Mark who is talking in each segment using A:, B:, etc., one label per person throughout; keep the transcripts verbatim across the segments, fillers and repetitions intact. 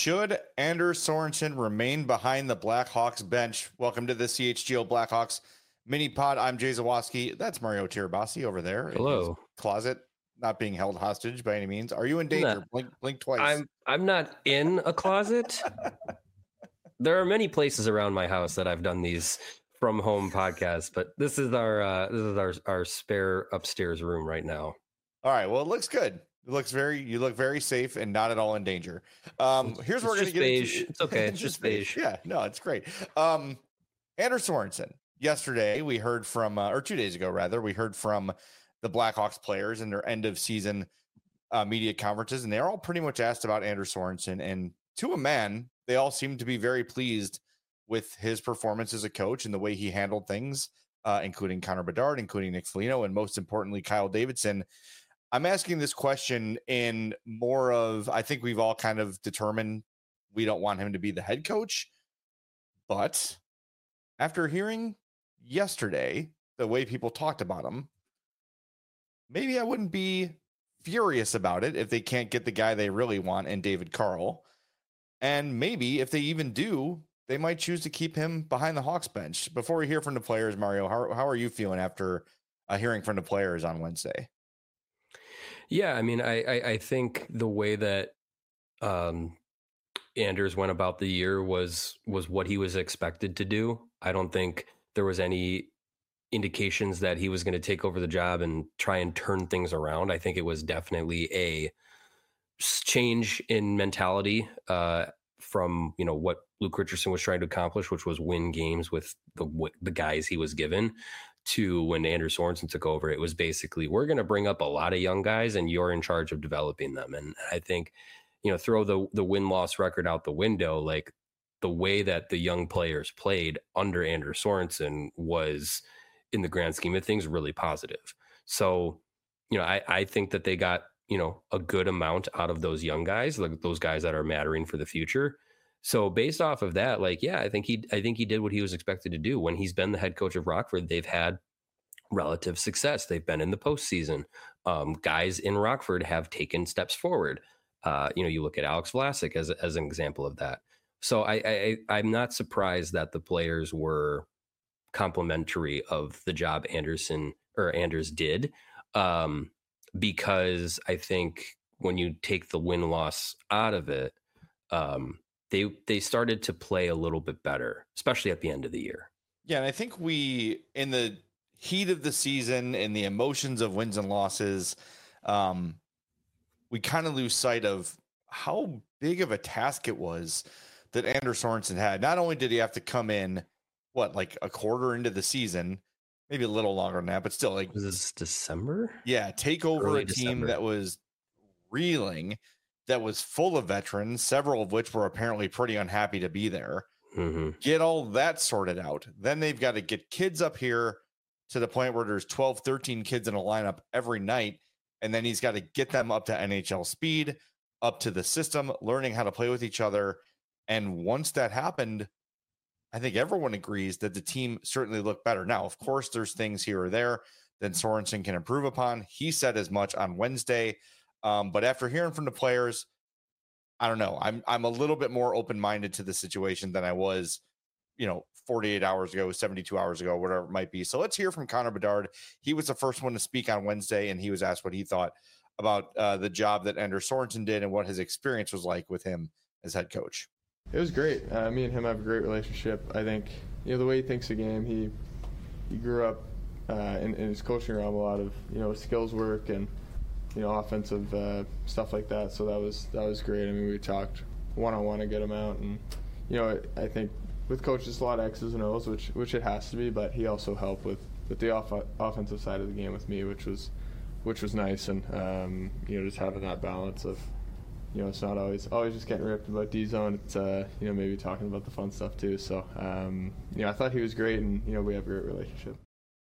A: Should Anders Sorensen remain behind the Blackhawks bench? Welcome to the C H G O Blackhawks mini pod. I'm Jay Zawaski. That's Mario Tirabassi over there.
B: Hello.
A: In his closet, not being held hostage by any means. Are you in danger?
B: No,
A: blink, blink twice.
B: I'm I'm not in a closet. There are many places around my house that I've done these from home podcasts, but this is our uh, this is our our spare upstairs room right now.
A: All right. Well, it looks good. It looks very, you look very safe and not at all in danger. Um, here's what we're going to get
B: beige.
A: into.
B: It's okay. It's just beige.
A: Yeah, no, it's great. Um, Anders Sorensen. Yesterday, we heard from, uh, or two days ago, rather, we heard from the Blackhawks players in their end of season uh, media conferences, and they're all pretty much asked about Anders Sorensen. And to a man, they all seem to be very pleased with his performance as a coach and the way he handled things, uh, including Connor Bedard, including Nick Foligno, and most importantly, Kyle Davidson. I'm asking this question in more of, I think we've all kind of determined we don't want him to be the head coach. But after hearing yesterday the way people talked about him, maybe I wouldn't be furious about it if they can't get the guy they really want in David Carl. And maybe if they even do, they might choose to keep him behind the Hawks bench. Before we hear from the players, Mario, how, how are you feeling after uh, hearing from the players on Wednesday?
B: Yeah, I mean, I, I, I think the way that um, Anders went about the year was was what he was expected to do. I don't think there was any indications that he was going to take over the job and try and turn things around. I think it was definitely a change in mentality uh, from, you know, what Luke Richardson was trying to accomplish, which was win games with the the guys he was given, to when Anders Sorensen took over. It was basically, we're going to bring up a lot of young guys and you're in charge of developing them. And I think, you know, throw the the win-loss record out the window, like the way that the young players played under Anders Sorensen was, in the grand scheme of things, really positive. So, you know, I, I think that they got, you know, a good amount out of those young guys, like those guys that are mattering for the future. So based off of that, like, yeah, I think he, I think he did what he was expected to do. When he's been the head coach of Rockford, they've had relative success. They've been in the postseason. Um, guys in Rockford have taken steps forward. Uh, you know, you look at Alex Vlasic as as an example of that. So I, I, I'm not surprised that the players were complimentary of the job Anderson or Anders did, um, because I think when you take the win loss out of it, um, they they started to play a little bit better, especially at the end of the year.
A: Yeah, and I think we, in the heat of the season and the emotions of wins and losses, um, we kind of lose sight of how big of a task it was that Anders Sorensen had. Not only did he have to come in, what, like a quarter into the season, maybe a little longer than that, but still, like,
B: was this December?
A: Yeah, take over
B: Early
A: a team
B: December.
A: that was reeling, that was full of veterans, several of which were apparently pretty unhappy to be there.
B: Mm-hmm.
A: Get all that sorted out. Then they've got to get kids up here to the point where there's twelve, thirteen kids in a lineup every night. And then he's got to get them up to N H L speed, up to the system, learning how to play with each other. And once that happened, I think everyone agrees that the team certainly looked better. Now, of course, there's things here or there that Sorensen can improve upon. He said as much on Wednesday. Um, but after hearing from the players, I don't know. I'm I'm a little bit more open-minded to the situation than I was, you know, forty-eight hours ago, seventy-two hours ago, whatever it might be. So let's hear from Connor Bedard. He was the first one to speak on Wednesday, and he was asked what he thought about uh, the job that Anders Sorensen did and what his experience was like with him as head coach.
C: It was great. Uh, me and him have a great relationship. I think, you know, the way he thinks the game, he he grew up uh, in, in his coaching realm, a lot of, you know, skills work and, you know, offensive uh, stuff like that. So that was that was great. I mean, we talked one-on-one to get him out. And, you know, I think with coaches, a lot of X's and O's, which which it has to be, but he also helped with, with the off- offensive side of the game with me, which was which was nice. And, um, you know, just having that balance of, you know, it's not always always just getting ripped about D-zone. It's, uh, you know, maybe talking about the fun stuff too. So, um, you know, I thought he was great, and, you know, we have a great relationship.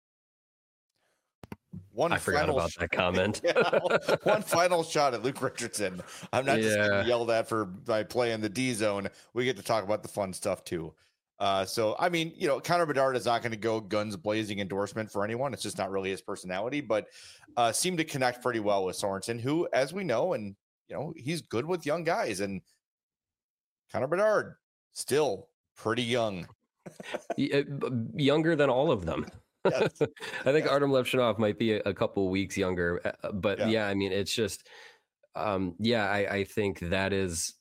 A: One
B: I forgot
A: final
B: about
A: sh-
B: that comment.
A: yeah, one final shot at Luke Richardson. I'm not just
B: Yeah.
A: getting yelled at for by playing the D zone. We get to talk about the fun stuff too. Uh, so, I mean, you know, Connor Bedard is not going to go guns blazing endorsement for anyone. It's just not really his personality, but uh, seemed to connect pretty well with Sorensen, who, as we know, and, you know, he's good with young guys. And Connor Bedard, still pretty young.
B: Younger than all of them.
A: Yes.
B: I think
A: yes.
B: Artem Levchinov might be a, a couple weeks younger, but yeah. yeah, I mean, it's just, um, yeah, I, I think that is,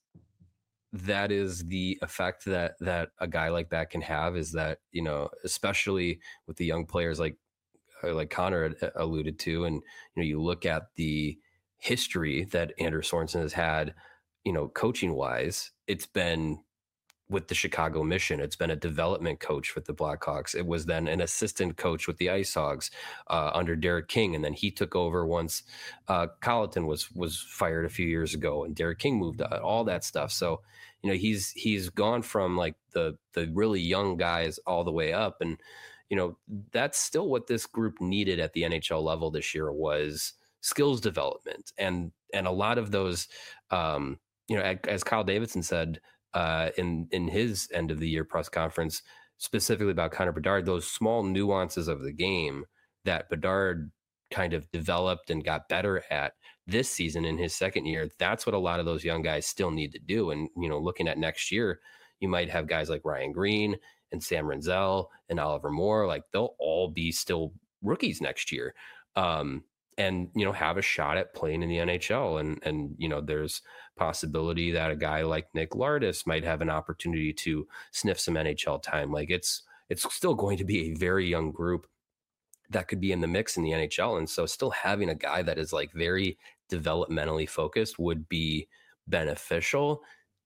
B: that is the effect that, that a guy like that can have, is that, you know, especially with the young players like, like Connor alluded to, and, you know, you look at the history that Anders Sorensen has had, you know, coaching wise, it's been with the Chicago Mission. It's been a development coach with the Blackhawks. It was then an assistant coach with the Ice Hogs uh, under Derek King. And then he took over once uh, Colleton was, was fired a few years ago and Derek King moved out, all that stuff. So, you know, he's, he's gone from like the, the really young guys all the way up. And, you know, that's still what this group needed at the N H L level this year, was skills development. And, and a lot of those, um, you know, as Kyle Davidson said, uh, in, in his end of the year press conference, specifically about Connor Bedard, those small nuances of the game that Bedard kind of developed and got better at this season in his second year. That's what a lot of those young guys still need to do. And, you know, looking at next year, you might have guys like Ryan Green and Sam Renzel and Oliver Moore, like they'll all be still rookies next year. Um, and, you know, have a shot at playing in the N H L. And, and, you know, there's possibility that a guy like Nick Lardis might have an opportunity to sniff some N H L time. Like it's, it's still going to be a very young group that could be in the mix in the N H L. And so still having a guy that is like very developmentally focused would be beneficial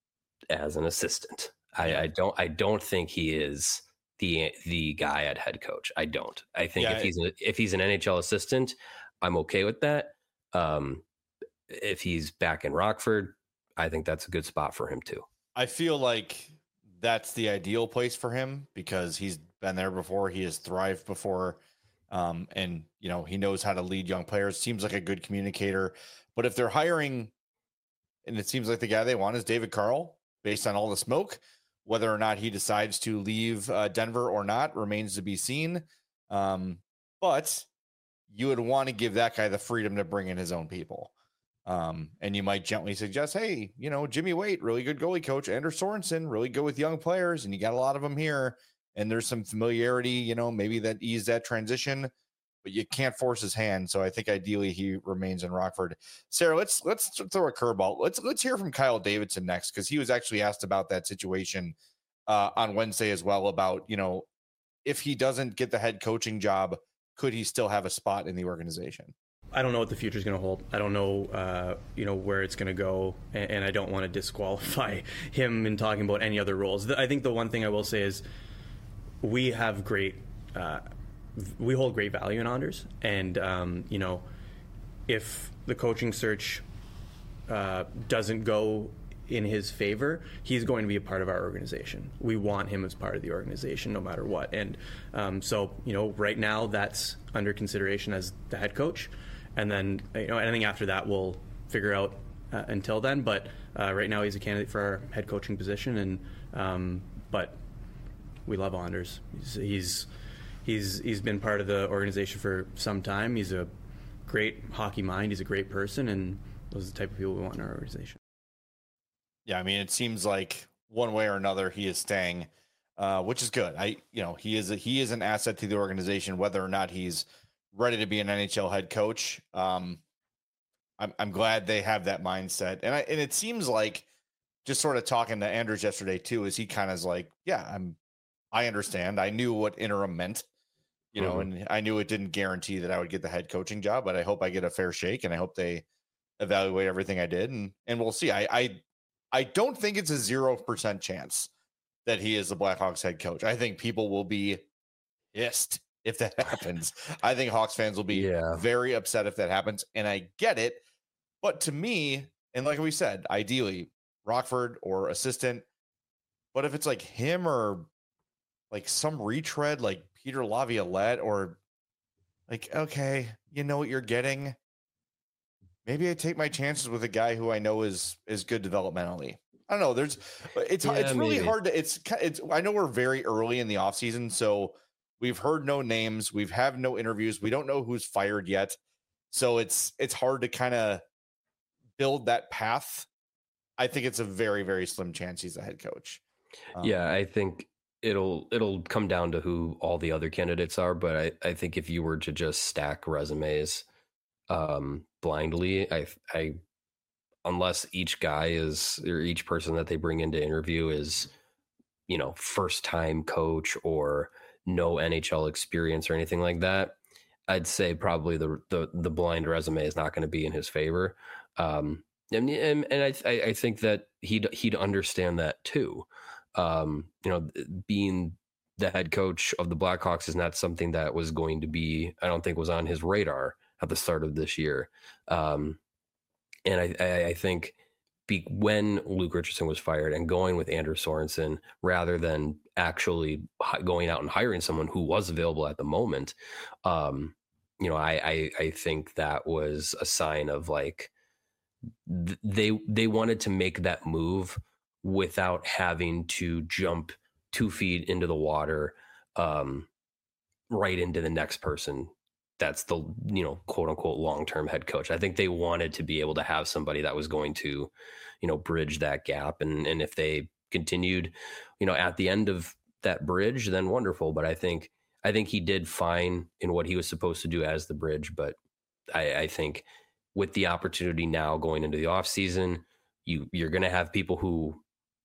B: as an assistant. I, I don't, I don't think he is the, the guy at head coach. I don't, I think yeah, if he's, a, if he's an N H L assistant, I'm okay with that. Um, if he's back in Rockford, I think that's a good spot for him too.
A: I feel like that's the ideal place for him because he's been there before. He has thrived before. Um, and you know, he knows how to lead young players, seems like a good communicator, but if they're hiring, and it seems like the guy they want is David Carl, based on all the smoke, whether or not he decides to leave uh, Denver or not remains to be seen. Um, but you would want to give that guy the freedom to bring in his own people. Um, and you might gently suggest, hey, you know, Jimmy Waite, really good goalie coach, Anders Sorensen, really good with young players, and you got a lot of them here. And there's some familiarity, you know, maybe that ease that transition, but you can't force his hand. So I think ideally he remains in Rockford. Sarah, let's let's throw a curveball. Let's let's hear from Kyle Davidson next, because he was actually asked about that situation uh, on Wednesday as well, about, you know, if he doesn't get the head coaching job, could he still have a spot in the organization?
D: I don't know what the future is going to hold. I don't know, uh, you know, where it's going to go, and, and I don't want to disqualify him in talking about any other roles. I think the one thing I will say is we have great, uh, we hold great value in Anders, and um, you know, if the coaching search uh, doesn't go in his favor, he's going to be a part of our organization. We want him as part of the organization no matter what. And um, so, you know, right now that's under consideration as the head coach. And then, you know, anything after that we'll figure out uh, until then. But uh, right now he's a candidate for our head coaching position. And um, but we love Anders. He's, he's he's he's been part of the organization for some time. He's a great hockey mind. He's a great person, and those are the type of people we want in our organization.
A: Yeah, I mean, it seems like one way or another he is staying, uh, which is good. I, you know, he is a, he is an asset to the organization, whether or not he's ready to be an N H L head coach. Um, I'm I'm glad they have that mindset, and I and it seems like, just sort of talking to Anders yesterday too, is he kind of is like, yeah, I'm, I understand. I knew what interim meant, you know, mm-hmm. and I knew it didn't guarantee that I would get the head coaching job, but I hope I get a fair shake, and I hope they evaluate everything I did, and and we'll see. I I. I don't think it's a zero percent chance that he is the Blackhawks head coach. I think people will be pissed if that happens. I think Hawks fans will be yeah. very upset if that happens. And I get it. But to me, and like we said, ideally Rockford or assistant, but if it's like him or like some retread, like Peter Laviolette, or like, okay, you know what you're getting. Maybe I take my chances with a guy who I know is is good developmentally. I don't know. There's, it's yeah, it's really maybe. hard to. It's it's. I know we're very early in the offseason, so we've heard no names. We've have no interviews. We don't know who's fired yet, so it's it's hard to kind of build that path I think it's a very, very slim chance he's the head coach. Um,
B: yeah, I think it'll it'll come down to who all the other candidates are. But I, I think if you were to just stack resumes um, blindly, I I unless each guy is or each person that they bring in to interview is, you know, first time coach or no N H L experience or anything like that, I'd say probably the the, the blind resume is not going to be in his favor. Um, and and, and I I think that he'd he'd understand that too. Um, you know, being the head coach of the Blackhawks is not something that was going to be, I don't think was on his radar at the start of this year. Um, and I, I, I think be, when Luke Richardson was fired and going with Anders Sorensen rather than actually going out and hiring someone who was available at the moment, um, you know, I, I, I think that was a sign of like, th- they, they wanted to make that move without having to jump two feet into the water, um, right into the next person. That's the, you know, quote unquote, long-term head coach. I think they wanted to be able to have somebody that was going to, you know, bridge that gap. And, and if they continued, you know, at the end of that bridge, then wonderful. But I think, I think he did fine in what he was supposed to do as the bridge. But I, I think with the opportunity now going into the off season, you, you're going to have people who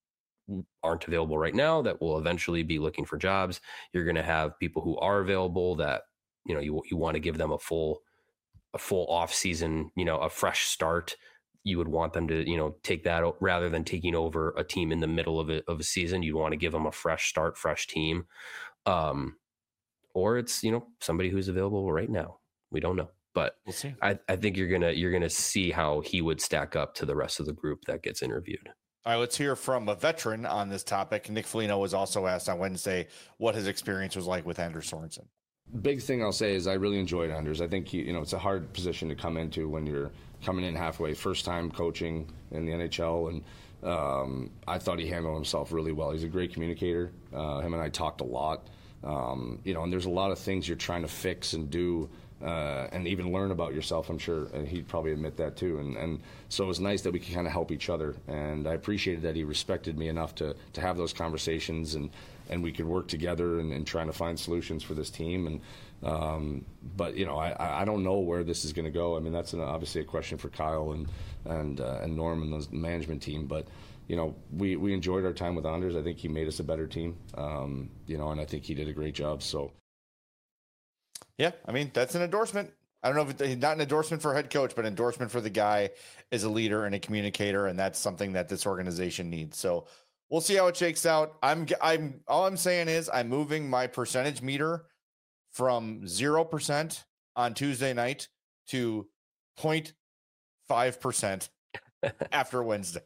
B: aren't available right now that will eventually be looking for jobs. You're going to have people who are available that, you know, you, you want to give them a full, a full off season, you know, a fresh start. You would want them to, you know, take that rather than taking over a team in the middle of a, of a season. You'd want to give them a fresh start, fresh team. Um, or it's, you know, somebody who's available right now. We don't know, but
A: we'll see.
B: I, I think you're going to, you're going to see how he would stack up to the rest of the group that gets interviewed.
A: All right, let's hear from a veteran on this topic. Nick Foligno was also asked on Wednesday what his experience was like with Anders Sorensen.
E: Big thing I'll say is I really enjoyed Anders. I think he, you know, it's a hard position to come into when you're coming in halfway, first time coaching in the N H L, and um, I thought he handled himself really well. He's a great communicator. Uh, him and I talked a lot, um, you know, and there's a lot of things you're trying to fix and do. Uh, and even learn about yourself, I'm sure, and he'd probably admit that too. And, and so it was nice that we could kind of help each other. And I appreciated that he respected me enough to, to have those conversations, and, and we could work together and, and trying to find solutions for this team. And um, but you know, I, I don't know where this is going to go. I mean, that's an, obviously a question for Kyle and and uh, and Norm and the management team. But you know, we, we enjoyed our time with Anders. I think he made us a better team. Um, you know, and I think he did a great job. So.
A: Yeah, I mean, that's an endorsement. I don't know if it's not an endorsement for head coach, but endorsement for the guy as a leader and a communicator, and that's something that this organization needs. So we'll see how it shakes out. I'm, I'm, all I'm saying is I'm moving my percentage meter from zero percent on Tuesday night to zero point five percent after Wednesday.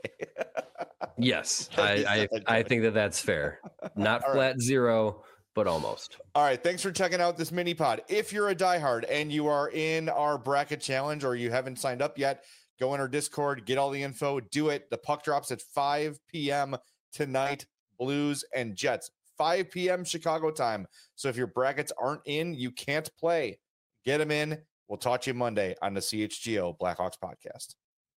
B: Yes, I, I, I think that that's fair. Not flat right. zero, but almost.
A: All right. Thanks for checking out this mini pod. If you're a diehard and you are in our bracket challenge or you haven't signed up yet, go in our Discord, get all the info, do it. The puck drops at five p.m. tonight, Blues and Jets, five p.m. Chicago time. So if your brackets aren't in, you can't play. Get them in. We'll talk to you Monday on the C H G O Blackhawks podcast.